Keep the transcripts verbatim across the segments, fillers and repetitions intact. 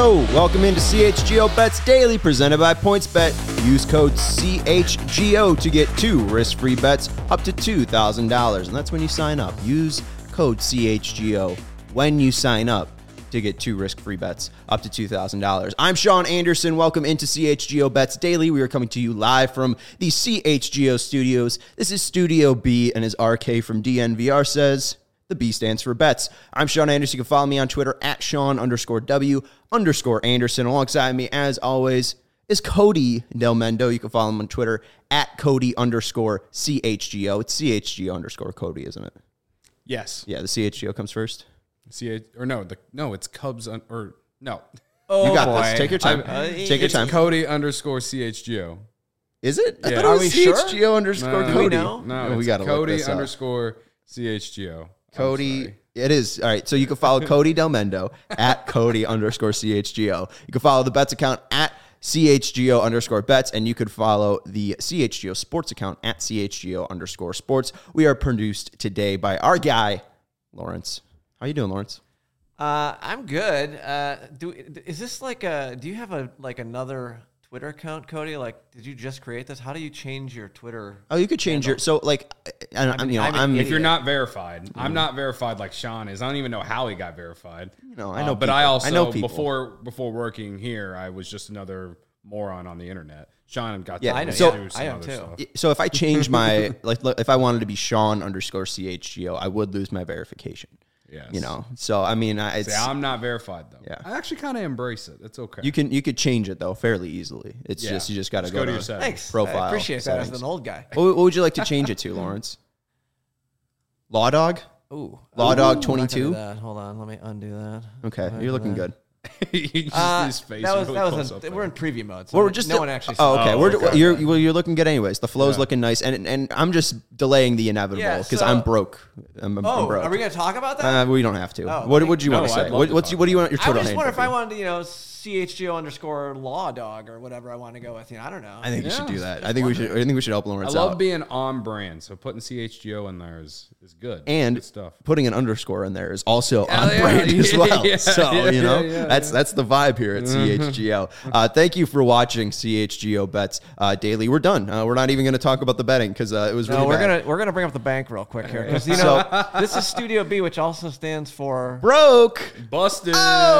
Yo, welcome into C H G O Bets Daily, presented by PointsBet. Use code C H G O to get two risk-free bets up to two thousand dollars, and that's when you sign up. Use code C H G O when you sign up to get two risk-free bets up to two thousand dollars. I'm Sean Anderson. Welcome into C H G O Bets Daily. We are coming to you live from the C H G O studios. This is Studio B, and as R K from D N V R says, the B stands for bets. I'm Sean Anderson. You can follow me on Twitter at Sean underscore W underscore Anderson. Alongside me, as always, is Cody Del Mendo. You can follow him on Twitter at Cody underscore C H G O. It's C H G O underscore Cody, isn't it? Yes. Yeah, the C H G O comes first. C H or no, the no, it's Cubs un, or no. Oh, you got boy. this. Take your time. Uh, Take your time. Cody underscore C H G O. Is it? I yeah. thought it was Are we C H G O sure? underscore no, Cody. No, no, no we got to Cody underscore C H G O. Cody, it is. All right, so you can follow Cody Del Mendo at Cody underscore C H G O. You can follow the bets account at C H G O underscore bets, and you could follow the C H G O sports account at C H G O underscore sports. We are produced today by our guy, Lawrence. How you doing, Lawrence? Uh, I'm good. Uh, do is this like a? Do you have a like another Twitter account, Cody? Like, did you just create this? How do you change your Twitter? Oh, you could change handle? your so like. I, I'm, you know, I'm, I'm if you're not verified, mm-hmm. I'm not verified like Sean is. I don't even know how he got verified. You know, I know, uh, but people. I also I know people. before before working here, I was just another moron on the internet. Sean got yeah, to I know. So, yeah, I am too. Stuff. So if I change my like, if I wanted to be Sean underscore C H G O, I would lose my verification. Yes. You know, so I mean, I, it's, See, I'm not verified though. Yeah. I actually kind of embrace it. It's okay. You can you could change it though fairly easily. It's yeah. just you just got to go, go to your settings. Thanks. Profile. I appreciate settings. that as an old guy. What, what would you like to change it to, Lawrence? Law Dog? Ooh, Law Ooh, Dog twenty-two. Hold on, let me undo that. Okay, you're looking good. you just, uh, his face that was really that was a, we're in preview mode. So well, we're just no one actually. Oh, okay. Oh, we're okay. you're well, you're looking good anyways. The flow's yeah. looking nice, and and I'm just delaying the inevitable because yeah, so, I'm broke. I'm, I'm oh, broke. are we gonna talk about that? Uh, we don't have to. Oh, what would you no, want to say? What, what, what's you, what do you want your Twitter I just wonder if be? I wanted to, you know, C H G O underscore Law Dog or whatever I want to go with. You know, I don't know. I think yeah. you should do that. Just I think wondering. we should. I think we should help Lawrence I love out. being on brand, so putting C H G O in there is is good. And good stuff. Putting an underscore in there is also yeah, on yeah, brand yeah, as well. yeah, so yeah, you know yeah, yeah, that's yeah. that's the vibe here at C H G O. Uh, thank you for watching C H G O Bets uh, Daily. We're done. Uh, we're not even going to talk about the betting because uh, it was really no. We're bad. gonna we're gonna bring up the bank real quick here because you know so, this is Studio B, which also stands for broke. Busted.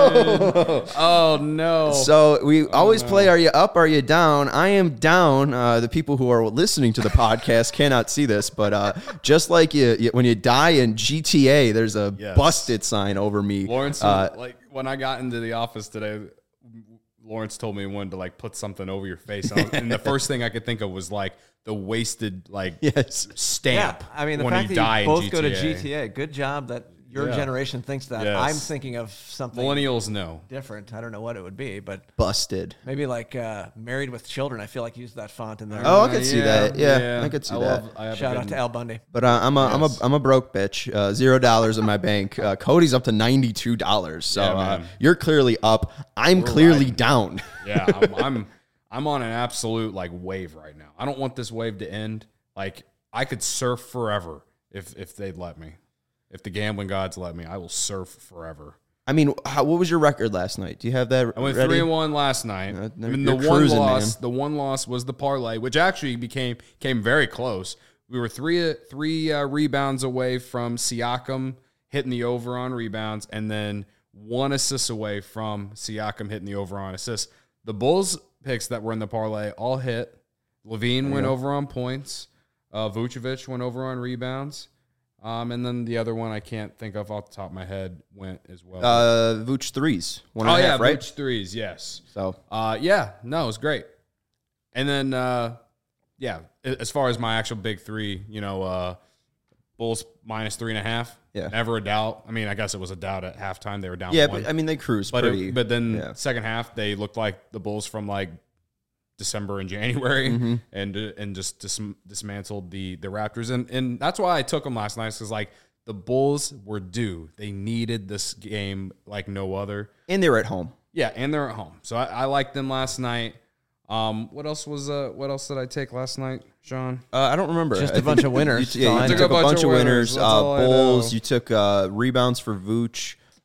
Oh, oh no. So we always no. play, are you up, are you down? I am down. Uh, the people who are listening to the podcast cannot see this, but uh, just like you, you, when you die in G T A, there's a yes. busted sign over me. Lawrence, uh, like when I got into the office today, Lawrence told me he wanted to like put something over your face. And, I was, and the first thing I could think of was like the wasted like yes. stamp. Yeah, I mean, the when fact you that die you both in go to G T A, good job that your Yeah. generation thinks that. Yes. I'm thinking of something Millennials know. different. I don't know what it would be, but busted. maybe like uh, Married with Children. I feel like use that font in there. Oh, I could see yeah, that. Yeah, yeah. I could see I that. love, I have Shout a out good, to Al Bundy. But uh, I'm a, Yes. I'm a, I'm a broke bitch. Uh, Zero dollars in my bank. Uh, Cody's up to ninety-two dollars. So Yeah, uh, man. you're clearly up. I'm We're clearly riding. down. Yeah, I'm, I'm I'm on an absolute like wave right now. I don't want this wave to end. Like I could surf forever if if they'd let me. If the gambling gods let me, I will surf forever. I mean, how, what was your record last night? Do you have that? I went ready? three and one last night. Uh, I mean, you're the one cruising, loss, man. the one loss was the parlay, which actually became came very close. We were three three uh, rebounds away from Siakam hitting the over on rebounds, and then one assist away from Siakam hitting the over on assists. The Bulls picks that were in the parlay all hit. Levine went go. over on points. Uh, Vucevic went over on rebounds. Um, and then the other one I can't think of off the top of my head went as well. Uh, Vooch threes. One and oh, a yeah, half, right? Vooch threes, yes. So, uh, yeah, no, it was great. And then, uh, yeah, as far as my actual big three, you know, uh, Bulls minus three and a half. Yeah. Never a doubt. I mean, I guess it was a doubt at halftime. They were down yeah, one. but I mean, they cruise But, pretty. it, but then yeah. second half, they looked like the Bulls from like December and January, Mhm. and and just dis- dismantled the the Raptors. And and that's why I took them last night, because like the Bulls were due. They needed this game like no other. And they were at home. Yeah, and they're at home. So I, I liked them last night. Um, what else was uh what else did I take last night, Sean? Uh, I don't remember. Just a a bunch of winners. You, yeah, you Fine. took, a bunch, of winners. That's Uh, all I Bulls. know. You took uh, rebounds for Vooch.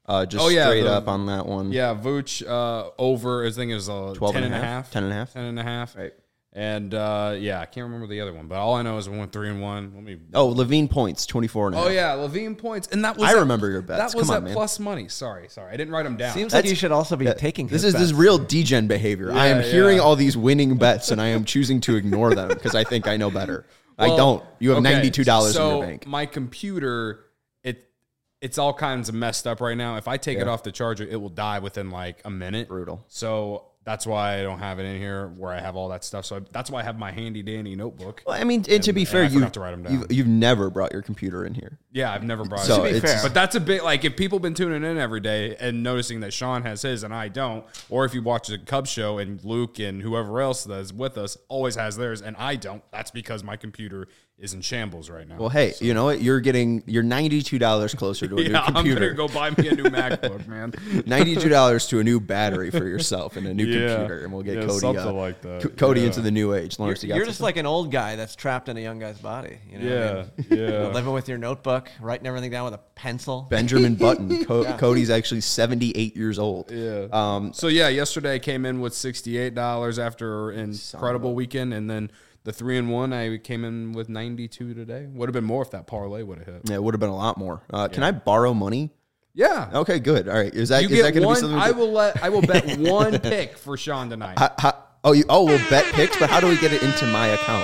Uh, just Oh, yeah, straight the- up on that one. Yeah, Vooch uh, over, I think it was uh, twelve ten and and a a half, half. ten and a half. ten and a half. Right. And uh, yeah, I can't remember the other one, but all I know is we went three and one. Let me. Oh, Levine points, twenty-four and a half. Oh yeah, Levine points, and that was I at- remember your bets. That was Come on, at man. plus money. Sorry, sorry, I didn't write them down. Seems like That's- you should also be taking This his is this bets. real degen behavior. I am Yeah, hearing yeah. all these winning bets, and I am choosing to ignore them because I think I know better. I Well, don't. You have okay, ninety-two dollars so in your bank. my computer, it it's all kinds of messed up right now. If I take it Yeah. off the charger, it will die within like a minute. Brutal. So that's why I don't have it in here where I have all that stuff. So I, that's why I have my handy dandy notebook. Well, I mean, and to be and fair, I you forgot to write 'em down. you've, you've never brought your computer in here. Yeah, I've never brought So it. To be it's- fair. But that's a bit like if people been tuning in every day and noticing that Sean has his and I don't, or if you watch the Cubs show and Luke and whoever else that's with us always has theirs and I don't, that's because my computer is in shambles right now. Well, hey, you know what? You're getting you're ninety-two dollars closer to a new yeah, I'm computer. gonna go buy me a new MacBook, man. ninety-two dollars to a new battery for yourself and a new Yeah. computer, and we'll get Yeah, Cody something uh, like that. Co- Cody Yeah. into the new age. You're, Lawrence, you got you're just something? like an old guy that's trapped in a young guy's body. You know what I Yeah, mean? yeah. You know, living with your notebook, writing everything down with a pencil. Benjamin Button. Co- Cody's actually seventy-eight years old. Yeah. Um, So yeah, yesterday I came in with sixty-eight dollars after an incredible weekend, and then the three and one I came in with ninety-two today. Would have been more if that parlay would have hit. yeah, it would have been a lot more. Uh, Can I borrow money? Yeah. Okay, good. All right. Is that You is that get going to be one. something? I we- will let. I will bet one pick for Sean tonight. How- how- oh, you oh we'll bet picks, but how do we get it into my account?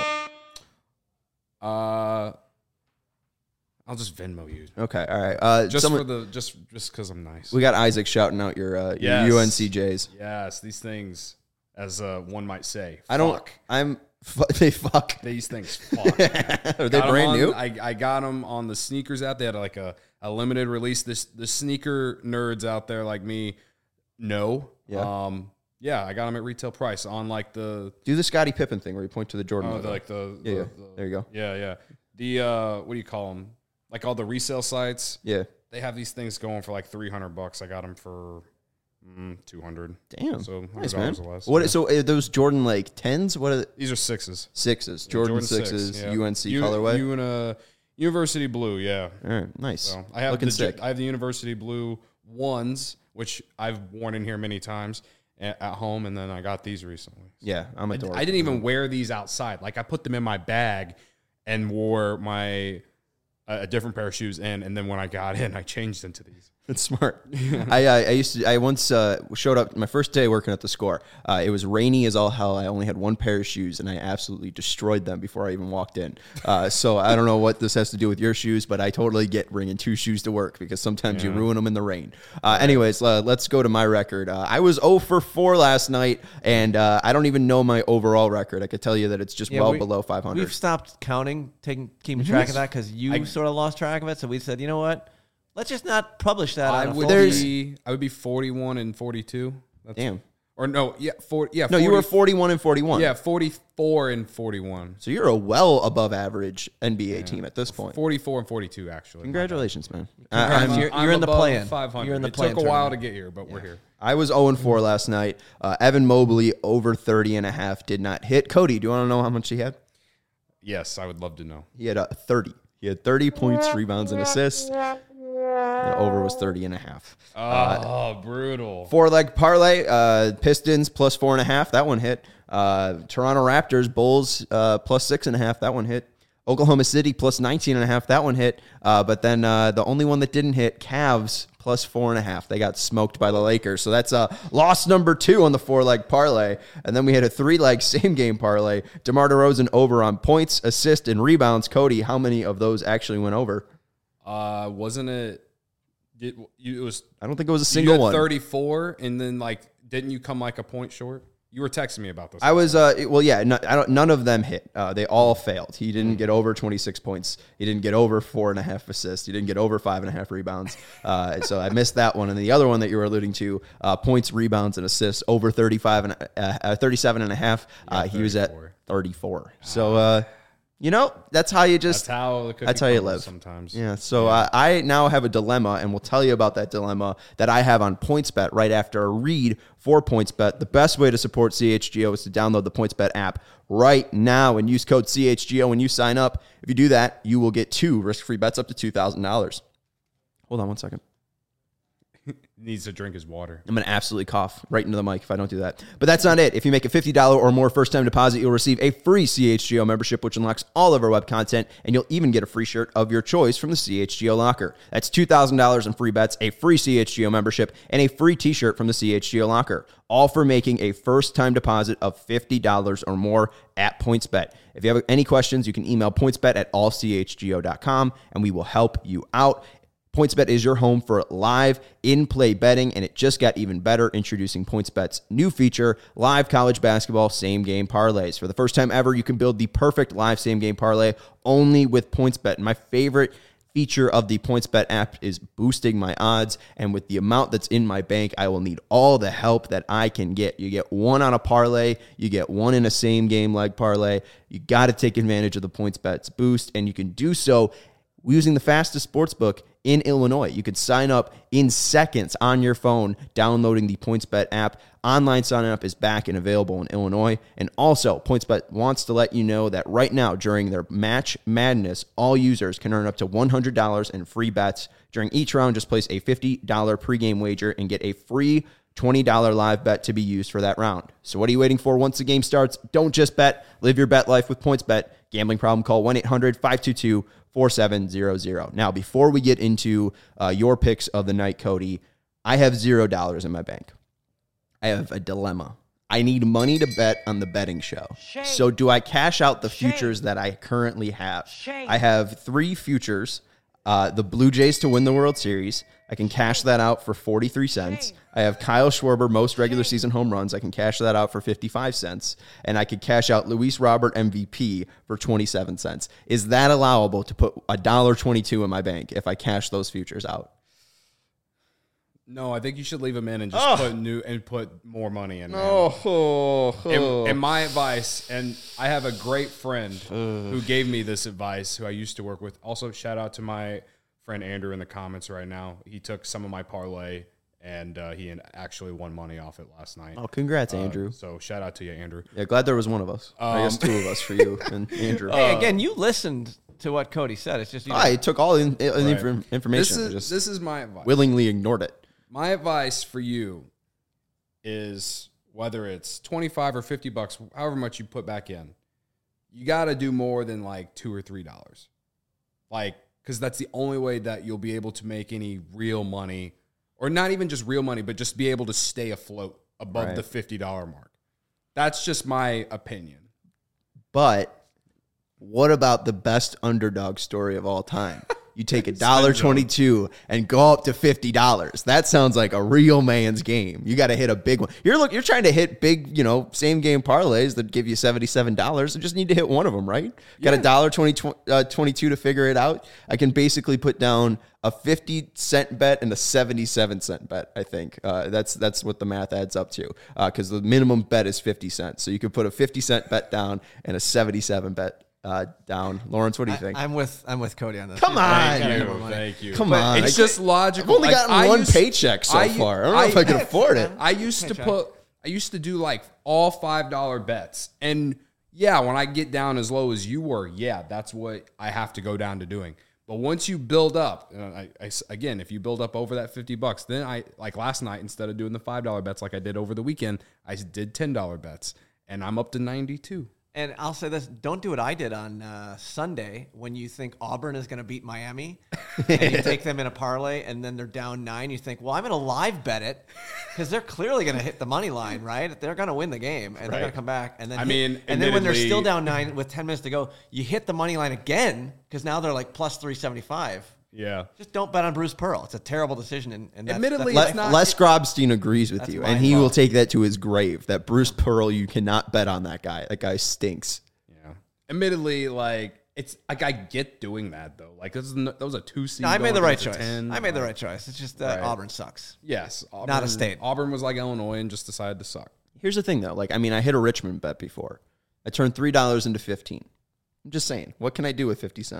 Uh, I'll just Venmo you. Okay, all right. Uh, Just someone- for the just just because I'm nice. we got Isaac shouting out your, uh, your Yes. U N C Js. Yes, these things, as uh, one might say, I don't. fuck. I'm. Fu- they fuck. These things fuck. Are they Got 'em brand on- new? I, I got them on the sneakers app. They had like a, a limited release. This the sneaker nerds out there like me know. Yeah. Um. Yeah, I got them at retail price on like the Do the Scottie Pippen thing where you point to the Jordan. oh, logo. the, like the, Yeah, the- yeah. the- There you go. Yeah, yeah. The uh, what do you call them? Like all the resale sites. Yeah. They have these things going for like three hundred bucks. I got them for mm, two hundred. Damn. So Nice, hundred man. dollars or less. What? yeah. So are those Jordan like tens? What are the, These are sixes. sixes? Jordan, six, sixes. yeah. U N C U- colorway. U- uh, University blue. Yeah. All right. Nice. So I have Looking the sick. I have the University blue ones, which I've worn in here many times at, at home, and then I got these recently. yeah, I'm a I, dork. I didn't even wear these outside. Like I put them in my bag and wore my a a different pair of shoes in, and then when I got in, I changed into these. It's smart. I, I I used to. I once uh, showed up my first day working at the Score. Uh, it was rainy as all hell. I only had one pair of shoes, and I absolutely destroyed them before I even walked in. Uh, so I don't know what this has to do with your shoes, but I totally get bringing two shoes to work because sometimes you ruin them in the rain. Uh, anyways, uh, let's go to my record. Uh, I was zero for four last night, and uh, I don't even know my overall record. I could tell you that it's just Yeah, well we- below five hundred. We've stopped counting, taking, keeping track of that because you sort of lost track of it. So we said, you know what? Let's just not publish that. I on a would full be I would be forty-one and forty-two. That's, Damn. Or no, yeah, four, yeah. No, you were forty-one and forty-one. yeah, forty-four and forty-one. So you're a well above average N B A team at this point. forty-four and forty-two, actually. Congratulations, man. Congrats. I, I'm- You're- you're in the above play-in. five hundred. You're in the It play-in took a while to tournament. get here, but we're here. I was zero and four last night. Uh, Evan Mobley over thirty and a half did not hit. Cody, do you want to know how much he had? Yes, I would love to know. He had uh, thirty. He had thirty points, rebounds, and assists. And over was thirty and a half. Oh, brutal. Four leg parlay, uh, Pistons plus four and a half. That one hit. Uh, Toronto Raptors, Bulls uh, plus six and a half. That one hit. Oklahoma City plus nineteen and a half. That one hit. Uh, but then uh, the only one that didn't hit, Cavs plus four and a half. They got smoked by the Lakers. So that's uh, loss number two on the four leg parlay. And then we had a three leg same game parlay. DeMar DeRozan over on points, assists, and rebounds. Cody, how many of those actually went over? Uh, wasn't it? Did you? It was I don't think it was a you single had one. thirty-four, and then like, didn't you come like a point short? You were texting me about this. I was, uh, well, yeah, no, I don't, none of them hit. Uh, they all failed. He didn't get over twenty-six points. He didn't get over four and a half assists. He didn't get over five and a half rebounds. Uh, so I missed that one. And the other one that you were alluding to, uh, points, rebounds, and assists over thirty-five and uh, uh, thirty-seven and a half. Uh, he was at thirty-four. thirty-four. So, uh, you know, that's how you just, That's how the cookie that's how you crumbles live. sometimes. yeah. So uh, I now have a dilemma, and we'll tell you about that dilemma that I have on PointsBet right after a read for PointsBet. The best way to support C H G O is to download the PointsBet app right now and use code C H G O when you sign up. If you do that, you will get two risk-free bets up to two thousand dollars. Hold on one second. needs to drink his water. I'm going to absolutely cough right into the mic if I don't do that. But that's not it. If you make a fifty dollars or more first-time deposit, you'll receive a free C H G O membership, which unlocks all of our web content, and you'll even get a free shirt of your choice from the C H G O Locker. That's two thousand dollars in free bets, a free C H G O membership, and a free t-shirt from the C H G O Locker, all for making a first-time deposit of fifty dollars or more at PointsBet. If you have any questions, you can email pointsbet at all c h g o dot com, and we will help you out. PointsBet is your home for live in-play betting, and it just got even better, introducing PointsBet's new feature, live college basketball same-game parlays. For the first time ever, you can build the perfect live same-game parlay only with PointsBet. And my favorite feature of the PointsBet app is boosting my odds, and with the amount that's in my bank, I will need all the help that I can get. You get one on a parlay, you get one in a same-game leg parlay. You got to take advantage of the PointsBet's boost, and you can do so using the fastest sportsbook in Illinois. You could sign up in seconds on your phone, downloading the PointsBet app. Online sign-up is back and available in Illinois. And also, PointsBet wants to let you know that right now, during their Match Madness, all users can earn up to one hundred dollars in free bets. During each round, just place a fifty dollars pregame wager and get a free twenty dollars live bet to be used for that round. So what are you waiting for? Once the game starts, don't just bet. Live your bet life with PointsBet. Gambling problem, call one eight hundred five two two four seven zero zero. Now, before we get into uh, your picks of the night, Cody, I have zero dollars in my bank. I have a dilemma. I need money to bet on the betting show. Shame. So do I cash out the Shame. futures that I currently have? Shame. I have three futures. Uh, the Blue Jays to win the World Series. I can cash that out for forty-three cents. I have Kyle Schwarber, most regular season home runs. I can cash that out for fifty-five cents. And I could cash out Luis Robert M V P for twenty-seven cents. Is that allowable to put one dollar twenty-two in my bank if I cash those futures out? No, I think you should leave them in and just oh. put new and put more money in. Oh, oh, oh. And, and my advice, and I have a great friend uh. who gave me this advice, who I used to work with. Also, shout out to my friend Andrew in the comments right now. He took some of my parlay, and uh, he actually won money off it last night. Oh, congrats, uh, Andrew. So shout out to you, Andrew. Yeah, glad there was one of us. Um, I guess two of us for you and Andrew. Hey, again, you listened to what Cody said. It's just you I took all in, in right. inf- information. This is, just this is my advice. Willingly ignored it. My advice for you is, whether it's twenty-five or fifty bucks, however much you put back in, you got to do more than like two or three dollars. Like, because that's the only way that you'll be able to make any real money, or not even just real money, but just be able to stay afloat above right. the fifty dollars mark. That's just my opinion. But what about the best underdog story of all time? You take a dollar twenty-two and go up to fifty dollars. That sounds like a real man's game. You got to hit a big one. You're look. You're trying to hit big, you know, same game parlays that give you seventy-seven dollars. You just need to hit one of them, right? Yeah. Got a dollar twenty-two to figure it out. I can basically put down a fifty cent bet and a seventy-seven cent bet. I think uh, that's that's what the math adds up to, because uh, the minimum bet is fifty cents. So you could put a fifty cent bet down and a seventy-seven bet. Uh, down. Lawrence, what do you think? I, I'm with I'm with Cody on this. Come on. Thank you. Thank you. Come but on. It's just logical. I've only like, gotten I one used, paycheck so I, far. I don't know I, if I can afford it. I used to put, I used to do like all five dollar bets. And yeah, when I get down as low as you were, yeah, that's what I have to go down to doing. But once you build up, uh, I, I, again, if you build up over that fifty bucks, then I, like last night, instead of doing the five dollar bets like I did over the weekend, I did ten dollar bets, and I'm up to ninety-two. And I'll say this, don't do what I did on uh, Sunday when you think Auburn is going to beat Miami and you take them in a parlay and then they're down nine. You think, well, I'm going to live bet it because they're clearly going to hit the money line, right? They're going to win the game and right. they're going to come back. And then I hit, mean, and then when they're still down nine with ten minutes to go, you hit the money line again because now they're like plus three seventy-five. Yeah. Just don't bet on Bruce Pearl. It's a terrible decision. And, and that's, admittedly, that's it's not. Les Grobstein agrees with That's you, my and he fault. will take that to his grave. That Bruce Pearl, you cannot bet on that guy. That guy stinks. Admittedly, like, it's like I get doing that though. Like, this is no, that was a two seed. No, I made the right choice. ten, I made the like, right choice. It's just uh, right. Auburn sucks. Yes, Auburn, not a state. Auburn was like Illinois and just decided to suck. Here's the thing, though. Like, I mean, I hit a Richmond bet before. I turned three dollars into fifteen. I'm just saying, what can I do with fifty cents?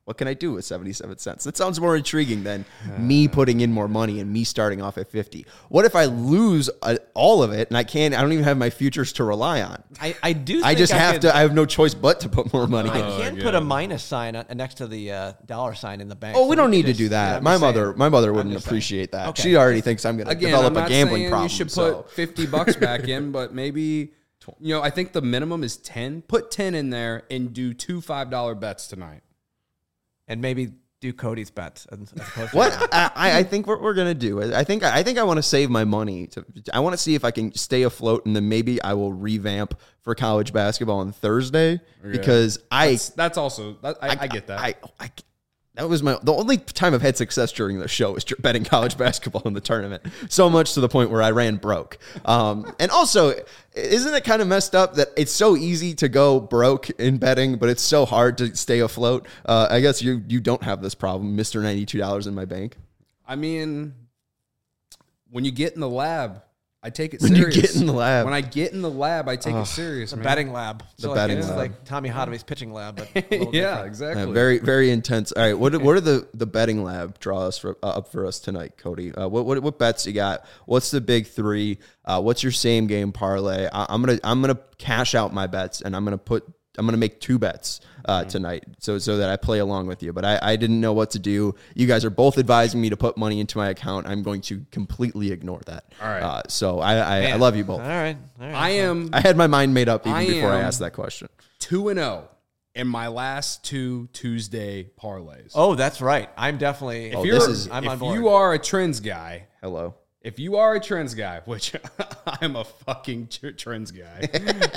What can I do with seventy-seven cents? That sounds more intriguing than uh, me putting in more money and me starting off at fifty. What if I lose uh, all of it and I can't, I don't even have my futures to rely on? I, I do I think just I have could, to, I have no choice but to put more money I in. Oh, can God. put a minus sign on, next to the uh, dollar sign in the bank. Oh, So we don't can need to just- do that. yeah, I'm my just mother, saying. my mother wouldn't just saying. appreciate that. Okay. She already thinks I'm going to Again, develop I'm not a gambling saying problem. you should so. put fifty bucks back in, but maybe, you know, I think the minimum is ten. Put ten in there and do two five dollar bets tonight. And maybe do Cody's bets. As opposed to What I, I think what we're gonna do, I think I think I want to save my money. To, I want to see if I can stay afloat, and then maybe I will revamp for college basketball on Thursday because I That's, that's also, that, I, I, I get that. I, I, that was my the only time I've had success during the show is betting college basketball in the tournament. So much to the point where I ran broke. Um, and also, isn't it kind of messed up that it's so easy to go broke in betting, but it's so hard to stay afloat? Uh, I guess you you don't have this problem, Mister ninety-two dollars in my bank. I mean, when you get in the lab, I take it When you serious. get in the lab. When I get in the lab, I take it serious, the man. betting lab. So The like, betting it's lab. like Tommy Hotovey's pitching lab, but a little yeah, different. exactly. Uh, very very intense. All right, what what are the, the betting lab draw us for, uh, up for us tonight, Cody? Uh, what, what what bets you got? What's the big three? Uh, what's your same game parlay? I, I'm gonna I'm gonna cash out my bets and I'm gonna put I'm gonna make two bets uh, tonight, so so that I play along with you. But I, I didn't know what to do. You guys are both advising me to put money into my account. I'm going to completely ignore that. All right. Uh, so I I, I Man. love you both. All right. All right. I am I had my mind made up even I before I am- asked that question. two and zero in my last two Tuesday parlays. Oh, that's right. I'm definitely. if oh, you're, this is- I'm if on board. you are a trends guy, Hello. if you are a trends guy, which I'm a fucking tr- trends guy,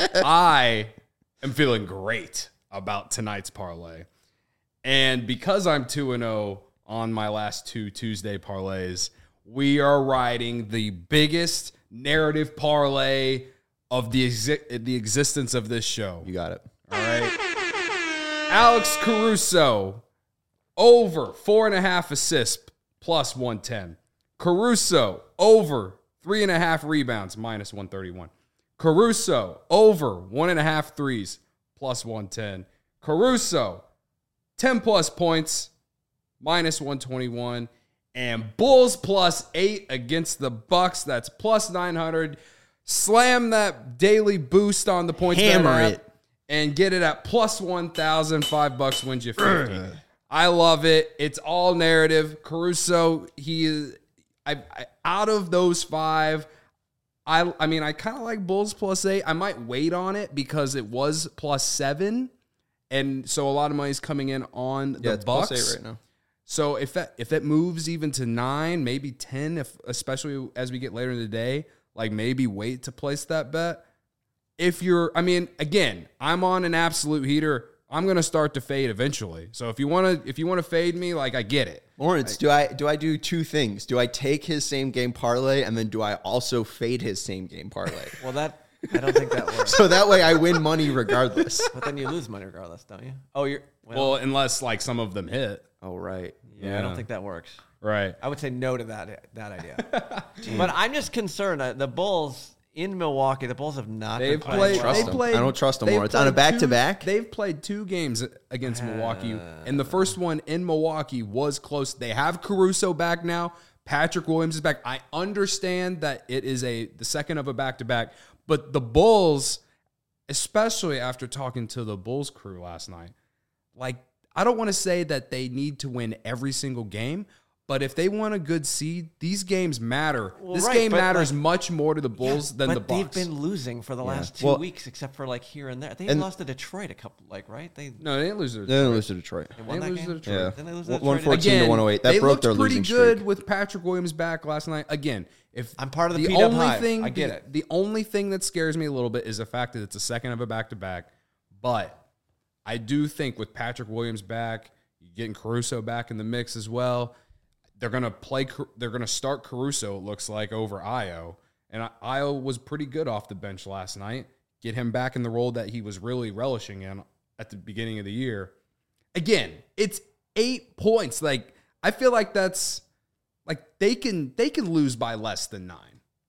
I am feeling great about tonight's parlay. And because I'm two and oh on my last two Tuesday parlays, we are riding the biggest narrative parlay of the exi- the existence of this show. You got it. All right. Alex Caruso, over four and a half assists, plus one ten. Caruso, over three and a half rebounds, minus one thirty-one. Caruso, over one and a half threes, plus one ten. Caruso, ten plus points, minus one twenty-one. And Bulls plus eight against the Bucks, that's plus nine hundred. Slam that daily boost on the points bet Hammer app it. and get it at plus one thousand. Five bucks wins you fifty. I love it. It's all narrative. Caruso, he is, I, I out of those five, I I mean, I kind of like Bulls plus eight. I might wait on it because it was plus seven. And so a lot of money's coming in on the Yeah, it's Bucks. plus eight right now. So if that if it moves even to nine, maybe ten, if especially as we get later in the day, like maybe wait to place that bet. If you're, I mean, again, I'm on an absolute heater. I'm gonna start to fade eventually. So if you wanna if you wanna fade me, like I get it. Lawrence, do I do I do two things? Do I take his same game parlay and then do I also fade his same game parlay? Well, that I don't think that works. So that way I win money regardless. But then you lose money regardless, don't you? Oh, you're. Well, Well, unless like some of them hit. Oh, right. yeah, I don't think that works. Right. I would say no to that that idea. But I'm just concerned. Uh, the Bulls in Milwaukee, the Bulls have not. They've been playing played. well. They them. played. I don't trust them they've more. It's on a played back-to-back? two- They've played two games against Milwaukee, and the first one in Milwaukee was close. They have Caruso back now. Patrick Williams is back. I understand that it is a the second of a back-to-back, but the Bulls, especially after talking to the Bulls crew last night, like I don't want to say that they need to win every single game. But if they want a good seed, these games matter. Well, this right, game but, matters like- much more to the Bulls than but the Bucks. they've been losing for the last two Well- weeks, except for like here and there. They And- lost to Detroit a couple, like right? They, no, they didn't lose their They didn't lose to Detroit. they won They that lose game. to Detroit. Yeah. Didn't they lose to one Detroit? fourteen Again, to one oh eight. That they broke looked their pretty losing good streak. with Patrick Williams back last night. Again, if I'm part of the the P-Dub only hive. thing, I get the, it. The only thing that scares me a little bit is the fact that it's a second of a back to back. But I do think with Patrick Williams back, getting Caruso back in the mix as well, they're gonna play. They're gonna start Caruso. It looks like over Io, and Io was pretty good off the bench last night. Get him back in the role that he was really relishing in at the beginning of the year. Again, it's eight points. Like I feel like that's like they can they can lose by less than nine.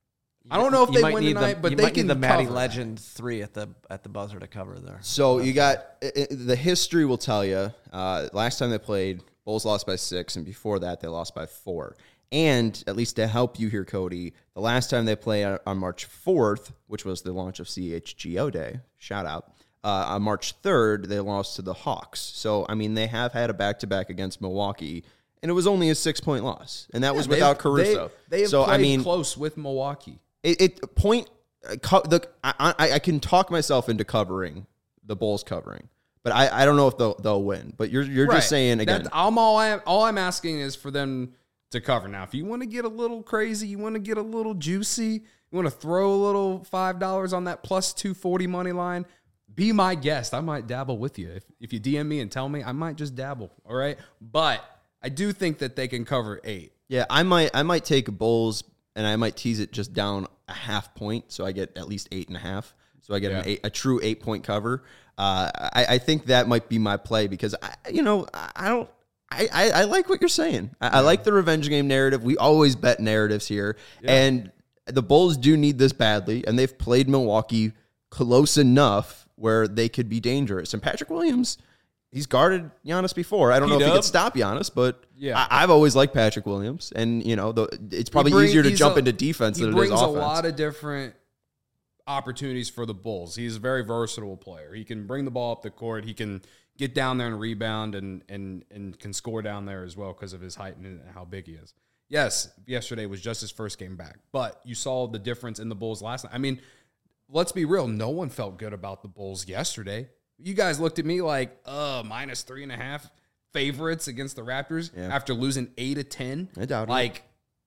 I don't know if You they might win need tonight, the, but you they might can need the Matty cover. Legend three at the at the buzzer to cover there. So you got i- i- the history will tell you. Uh, last time they played, Bulls lost by six, and before that they lost by four. And at least to help you here, Cody, the last time they played on, on March fourth, which was the launch of C H G O Day, shout out. Uh, on March third, they lost to the Hawks. So I mean, they have had a back to back against Milwaukee. And it was only a six-point loss, and that was Yeah, without they've- Caruso. They, they have so played I mean, close with Milwaukee. it, it point. uh, Co- the I, I I can talk myself into covering the Bulls covering, but I, I don't know if they'll they'll win. But you're you're Right. just saying again. That's, I'm all I'm all I'm asking is for them to cover. Now, if you want to get a little crazy, you want to get a little juicy, you want to throw a little five dollars on that plus two forty money line. Be my guest. I might dabble with you. If if you D M me and tell me, I might just dabble. All right, but I do think that they can cover eight. Yeah, I might I might take Bulls and I might tease it just down a half point, so I get at least eight and a half. So I get Yeah. an eight, a true eight point cover. Uh, I, I think that might be my play because I, you know, I I don't. I, I, I like what you're saying. I, I like the revenge game narrative. We always bet narratives here, and the Bulls do need this badly. And they've played Milwaukee close enough where they could be dangerous. And Patrick Williams, he's guarded Giannis before. I don't know if he P-Dub. could stop Giannis, but Yeah. I, I've always liked Patrick Williams. And, you know, the, it's probably He bring- easier to he's jump a- into defense He than it is brings a offense. lot of different opportunities for the Bulls. He's a very versatile player. He can bring the ball up the court. He can get down there and rebound and and and can score down there as well because of his height and how big he is. Yes, yesterday was just his first game back, but you saw the difference in the Bulls last night. I mean, let's be real. No one felt good about the Bulls yesterday. You guys looked at me like, uh, minus three and a half favorites against the Raptors Yeah. after losing eight to ten. I doubt it. Like,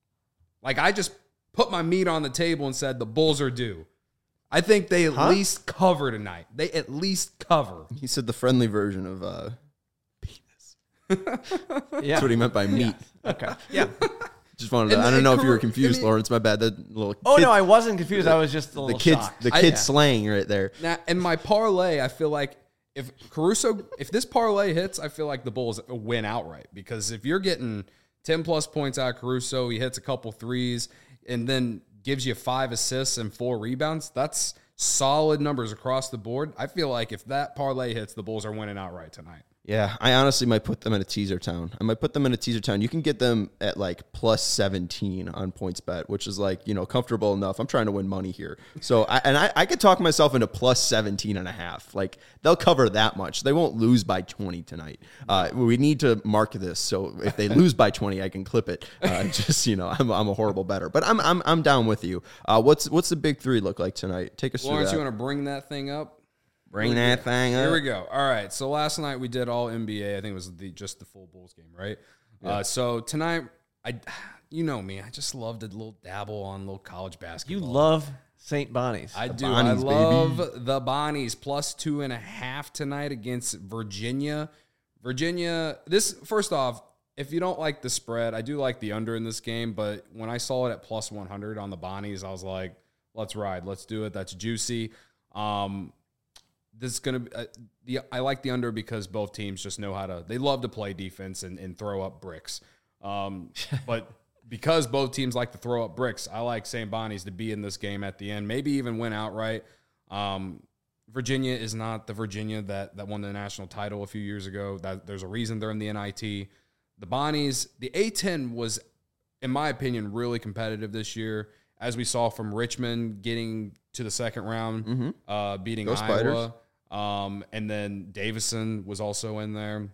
like I just put my meat on the table and said the Bulls are due. I think they at Huh? least cover tonight. They at least cover. He said the friendly version of uh, penis. Yeah. That's what he meant by meat. Okay. Yeah. Just wanted to, And I don't the- know if you were and confused, the- Lawrence. My bad. That little Oh kid, no, I wasn't confused. I was just a the little kids, shocked. the I- kid yeah. slang right there. Now, in my parlay, I feel like if Caruso, if this parlay hits, I feel like the Bulls win outright. Because if you're getting ten plus points out of Caruso, he hits a couple threes, and then gives you five assists and four rebounds, that's solid numbers across the board. I feel like if that parlay hits, the Bulls are winning outright tonight. Yeah, I honestly might put them in a teaser town. I might put them in a teaser town. You can get them at like plus seventeen on PointsBet, which is like, you know, comfortable enough. I'm trying to win money here. So, I, and I, I could talk myself into plus seventeen and a half. Like, they'll cover that much. They won't lose by twenty tonight. Uh, we need to mark this. So if they lose by twenty, I can clip it. Uh, just, you know, I'm, I'm a horrible bettor. But I'm, I'm, I'm down with you. Uh, what's, what's the big three look like tonight? Take us Lawrence, through you that. want to bring that thing up? Bring that thing up. Here we go. All right. So last night we did all N B A. I think it was the, just the full Bulls game, right? Uh, so tonight, I, you know me, I just loved a little dabble on little college You basketball. love Saint Bonnie's. I do. Bonnies, I baby. love the Bonnies plus two and a half tonight against Virginia. Virginia. This first off, if you don't like the spread, I do like the under in this game. But when I saw it at plus one hundred on the Bonnies, I was like, let's ride, let's do it. That's juicy. Um, This is gonna be uh, the. I like the under because both teams just know how to. They love to play defense and, and throw up bricks. Um, but because both teams like to throw up bricks, I like Saint Bonnie's to be in this game at the end, maybe even win outright. Um, Virginia is not the Virginia that that won the national title a few years ago. That there's a reason they're in the N I T. The Bonnies, the A ten was, in my opinion, really competitive this year, as we saw from Richmond getting to the second round, Mm-hmm. uh, beating Go Iowa. Spiders. Um, and then Davison was also in there.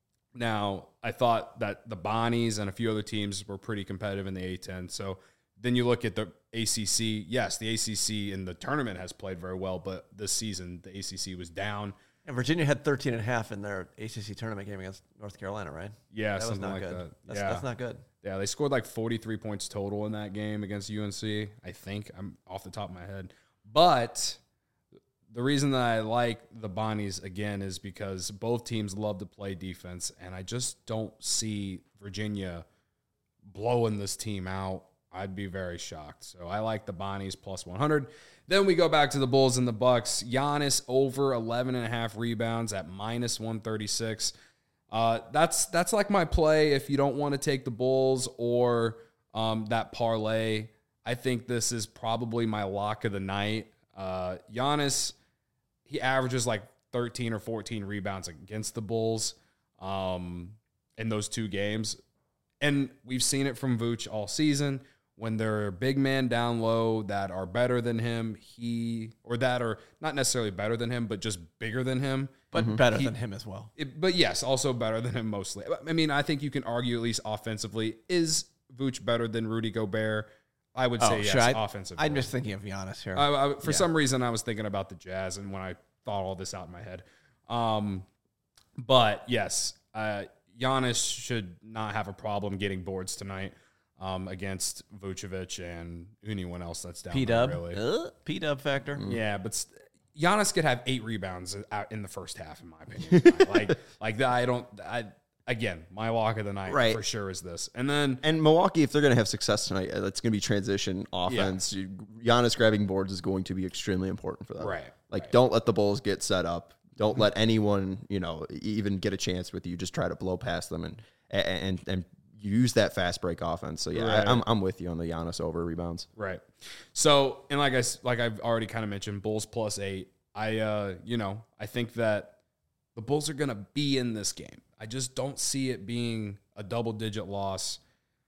Now, I thought that the Bonnies and a few other teams were pretty competitive in the A ten. So then you look at the A C C. Yes, the A C C in the tournament has played very well, but this season the A C C was down. And Virginia had thirteen and a half in their A C C tournament game against North Carolina, right? Yeah, That was something not like good. that. That's, yeah. that's not good. Yeah, they scored like forty-three points total in that game against U N C, I think. I'm off the top of my head. But the reason that I like the Bonnies, again, is because both teams love to play defense, and I just don't see Virginia blowing this team out. I'd be very shocked. So I like the Bonnies plus one hundred. Then we go back to the Bulls and the Bucks. Giannis over eleven and a half rebounds at minus one thirty-six. Uh, that's that's like my play if you don't want to take the Bulls or um, that parlay. I think this is probably my lock of the night. Uh, Giannis, he averages like thirteen or fourteen rebounds against the Bulls um, in those two games. And we've seen it from Vooch all season. When there are big men down low that are better than him, he or that are not necessarily better than him, but just bigger than him. But mm-hmm. better he, than him as well. It, but yes, also better than him mostly. I mean, I think you can argue at least offensively. Is Vooch better than Rudy Gobert? I would say oh, yes, sure. I, offensively. I'm just thinking of Giannis here. I, I, for yeah. some reason, I was thinking about the Jazz, and when I thought all this out in my head. Um, but yes, uh, Giannis should not have a problem getting boards tonight. Um, against Vucevic and anyone else that's down P-dub. there, really. Uh, P-dub factor. Mm. Yeah, but st- Giannis could have eight rebounds out in the first half, in my opinion. like, like that, I don't. I again, my lock of the night right. for sure is this. And then and Milwaukee, if they're going to have success tonight, that's going to be transition offense. Yeah. Giannis grabbing boards is going to be extremely important for them. Right. Like, right. don't let the Bulls get set up. Don't let anyone, you know, even get a chance with you. Just try to blow past them and and and. use that fast break offense. So, yeah, right. I, I'm I'm with you on the Giannis over rebounds. Right. So, and like, I, like I've already kind of mentioned, Bulls plus eight. I, uh, you know, I think that the Bulls are going to be in this game. I just don't see it being a double-digit loss.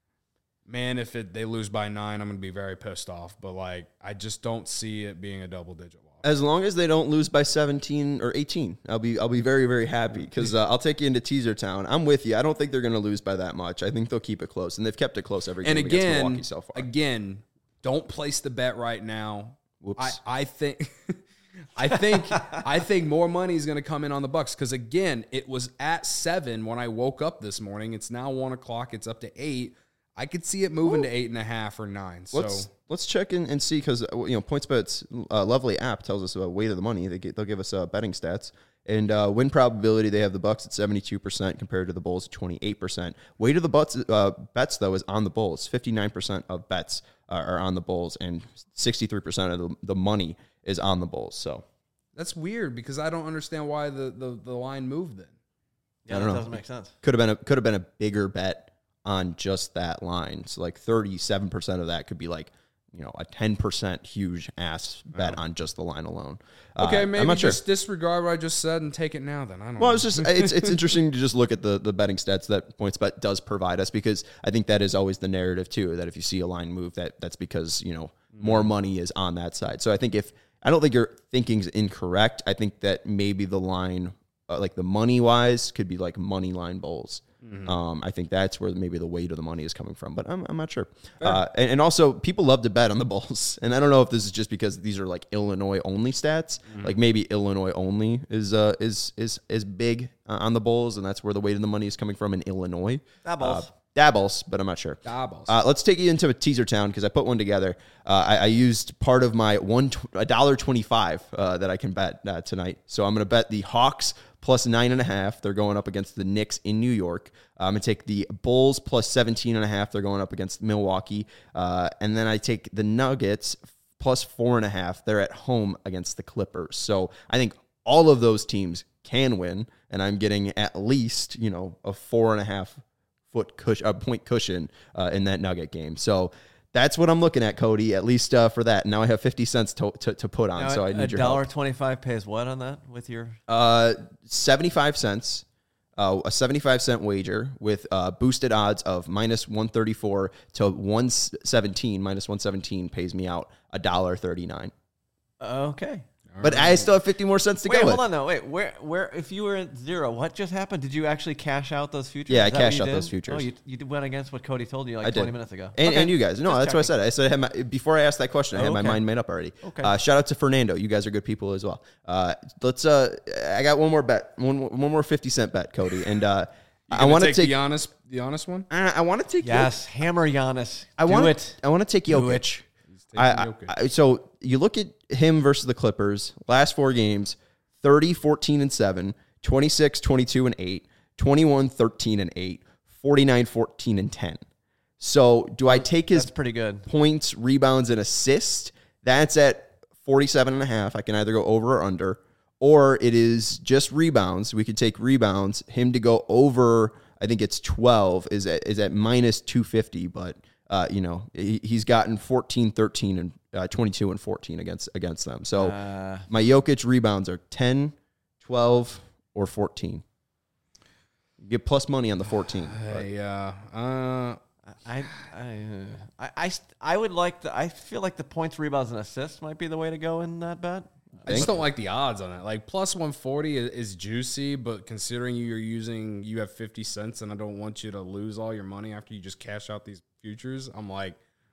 Man, if it, they lose by nine, I'm going to be very pissed off. But, like, I just don't see it being a double-digit loss. As long as they don't lose by seventeen or eighteen, I'll be I'll be very, very happy because uh, I'll take you into Teaser Town. I'm with you. I don't think they're going to lose by that much. I think they'll keep it close, and they've kept it close every game and again, against Milwaukee so far. Again, don't place the bet right now. Whoops. I, I think I think I think more money is going to come in on the Bucks because again, it was at seven when I woke up this morning. It's now one o'clock. It's up to eight. I could see it moving Ooh. to eight and a half or nine. So let's let's check in and see because you know PointsBet's uh, lovely app tells us about weight of the money. They get, they'll give us uh, betting stats and uh, win probability. They have the Bucks at seventy-two percent compared to the Bulls at twenty-eight percent. Weight of the butts, uh, bets though is on the Bulls. fifty-nine percent of bets uh, are on the Bulls, and sixty-three percent of the, the money is on the Bulls. So that's weird because I don't understand why the the, the line moved then. Yeah, I don't that know. Doesn't make sense. Could have been a could have been a bigger bet on just that line. So like thirty-seven percent of that could be like, you know, a ten percent huge ass bet oh. on just the line alone. Okay, uh, maybe I'm not just sure. disregard what I just said and take it now then. I don't well, know. it's just it's it's interesting to just look at the the betting stats that PointsBet does provide us because I think that is always the narrative too, that if you see a line move that that's because, you know, mm. more money is on that side. So I think if I don't think your thinking's incorrect. I think that maybe the line uh, like the money wise could be like money line Bulls. Mm-hmm. Um, I think that's where maybe the weight of the money is coming from, but I'm I'm not sure. Uh, and, and also, people love to bet on the Bulls, and I don't know if this is just because these are like Illinois only stats. Mm-hmm. Like maybe Illinois only is uh is is is big uh, on the Bulls, and that's where the weight of the money is coming from in Illinois. Dabbles. Uh, Dabbles, but I'm not sure. Dabbles. Uh, let's take you into a Teaser Town because I put one together. Uh, I, I used part of my one a dollar twenty five uh, that I can bet uh, tonight. So I'm going to bet the Hawks plus nine and a half. They're going up against the Knicks in New York. Uh, I'm going to take the Bulls plus seventeen and a half. They're going up against Milwaukee. Uh, and then I take the Nuggets plus four and a half. They're at home against the Clippers. So I think all of those teams can win, and I'm getting at least, you know, a four and a half foot cushion, a point cushion uh, in that Nugget game. So that's what I'm looking at, Cody, at least uh, for that. Now I have fifty cents to to, to put on, now, so I need your help. A dollar twenty-five pays what on that with your? Uh, seventy-five cents, uh, a seventy-five cent wager with uh, boosted odds of minus one thirty-four to one seventeen. Minus one seventeen pays me out a dollar thirty-nine. Okay. But I still have fifty more cents to Wait, go. Wait, hold with. on though. Wait, where, where? If you were at zero, what just happened? Did you actually cash out those futures? Yeah, Is I cashed out did? those futures. Oh, you, you went against what Cody told you like I twenty did. minutes ago. And, okay. and you guys, no, Just that's checking. what I said. I said I had my, before I asked that question, I had Oh, my okay. mind made up already. Okay. Uh, shout out to Fernando. You guys are good people as well. Uh, let's. Uh, I got one more bet, one one more fifty cent bet, Cody, and uh, I want to take the honest, the honest one. I, I want to take yes, Jokic. Hammer Giannis. I Do want it. I want to take Do Jokic. it. I, I, I, so you look at him versus the Clippers, last four games, thirty, fourteen, and seven, twenty-six, twenty-two, and eight, twenty-one, thirteen, and eight, forty-nine, fourteen, and ten. So do I take his That's pretty good. points, rebounds, and assists? That's at forty-seven and a half. I can either go over or under, or it is just rebounds. We could take rebounds. Him to go over, I think it's twelve, is at, is at minus two fifty, but uh, you know, he, he's gotten fourteen, thirteen, and uh, twenty-two and fourteen against against them. So Uh, my Jokic rebounds are ten, twelve, or fourteen. You get plus money on the fourteen. but- Yeah. Uh, I, I, uh, I, I, st- I would like the. I feel like the points, rebounds, and assists might be the way to go in that bet. I just don't like the odds on it. Like plus one forty is, is juicy, but considering you're using, you have fifty cents, and I don't want you to lose all your money after you just cash out these futures. I'm like,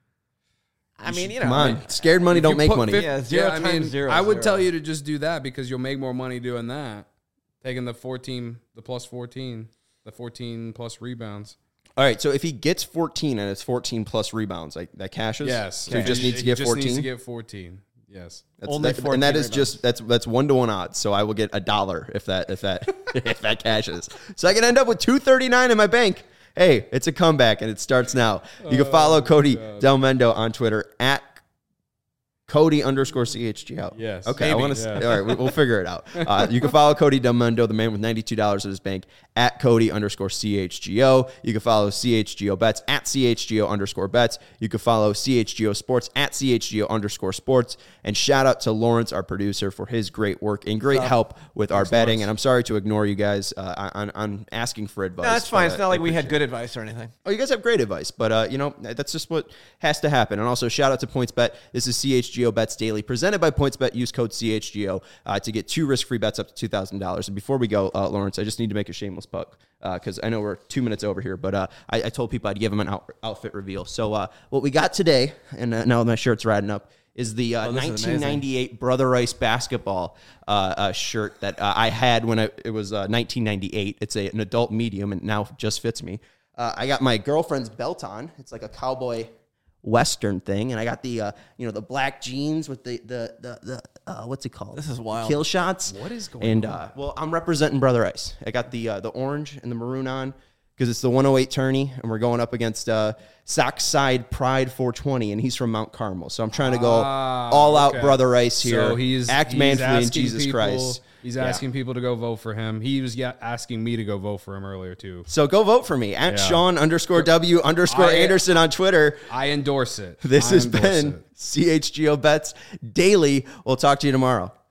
I mean, you know, Come on, scared money don't you make put money. fif- Yeah, zero I times mean, zero I is would zero. tell you to just do that because you'll make more money doing that. Taking the fourteen, the plus fourteen, the fourteen plus rebounds. All right, so if he gets fourteen and it's fourteen plus rebounds, like that cashes. Yes. So he just needs to get just fourteen. needs to get fourteen. Yes. That's, Only that, fourteen and that is rebounds. just that's that's one to one odds. So I will get a dollar if that if that if that cashes. So I can end up with two thirty nine in my bank. Hey, it's a comeback and it starts now. You can follow Cody Del Mendo on Twitter at Cody underscore C H G O. Yes. Okay. I Maybe. want to. Yeah. All right. we- We'll figure it out. Uh, you can follow Cody Del Mendo, the man with ninety-two dollars in his bank, at Cody underscore C H G O. You can follow C H G O Bets at C H G O underscore Bets. You can follow C H G O Sports at C H G O underscore Sports. And shout out to Lawrence, our producer, for his great work and great help with our betting. And I'm sorry to ignore you guys uh, on, on asking for advice. No, that's fine. but, It's uh, not like I we had appreciate it. good advice or anything. Oh, you guys have great advice, but uh, you know that's just what has to happen. And also, shout out to PointsBet. This is C H G O Bets Daily, presented by PointsBet. Use code C H G O uh, to get two risk-free bets up to two thousand dollars. And before we go, uh, Lawrence, I just need to make a shameless plug because uh, I know we're two minutes over here, but uh, I, I told people I'd give them an out, outfit reveal. So uh, what we got today, and uh, now my shirt's riding up, is the uh, Oh, this is nineteen ninety-eight Brother Rice basketball uh, uh, shirt that uh, I had when I, it was uh, nineteen ninety-eight. It's a, an adult medium and now just fits me. Uh, I got my girlfriend's belt on. It's like a cowboy Western thing, and I got the uh, you know the black jeans with the the the, the uh, what's it called? This is wild. Kill shots. What is going and, on? uh, well, I'm representing Brother Ice. I got the uh, the orange and the maroon on because it's the one oh eight tourney, and we're going up against uh, Sockside Pride four twenty, and he's from Mount Carmel. So I'm trying to go Ah, all out okay. Brother Ice here. So he's act he's manfully in asking Jesus people- Christ. He's Yeah. asking people to go vote for him. He was yeah, asking me to go vote for him earlier too. So go vote for me at Yeah. Sean underscore W underscore I- Anderson on Twitter. I endorse it. This I has endorse been it. C H G O Bets Daily. We'll talk to you tomorrow.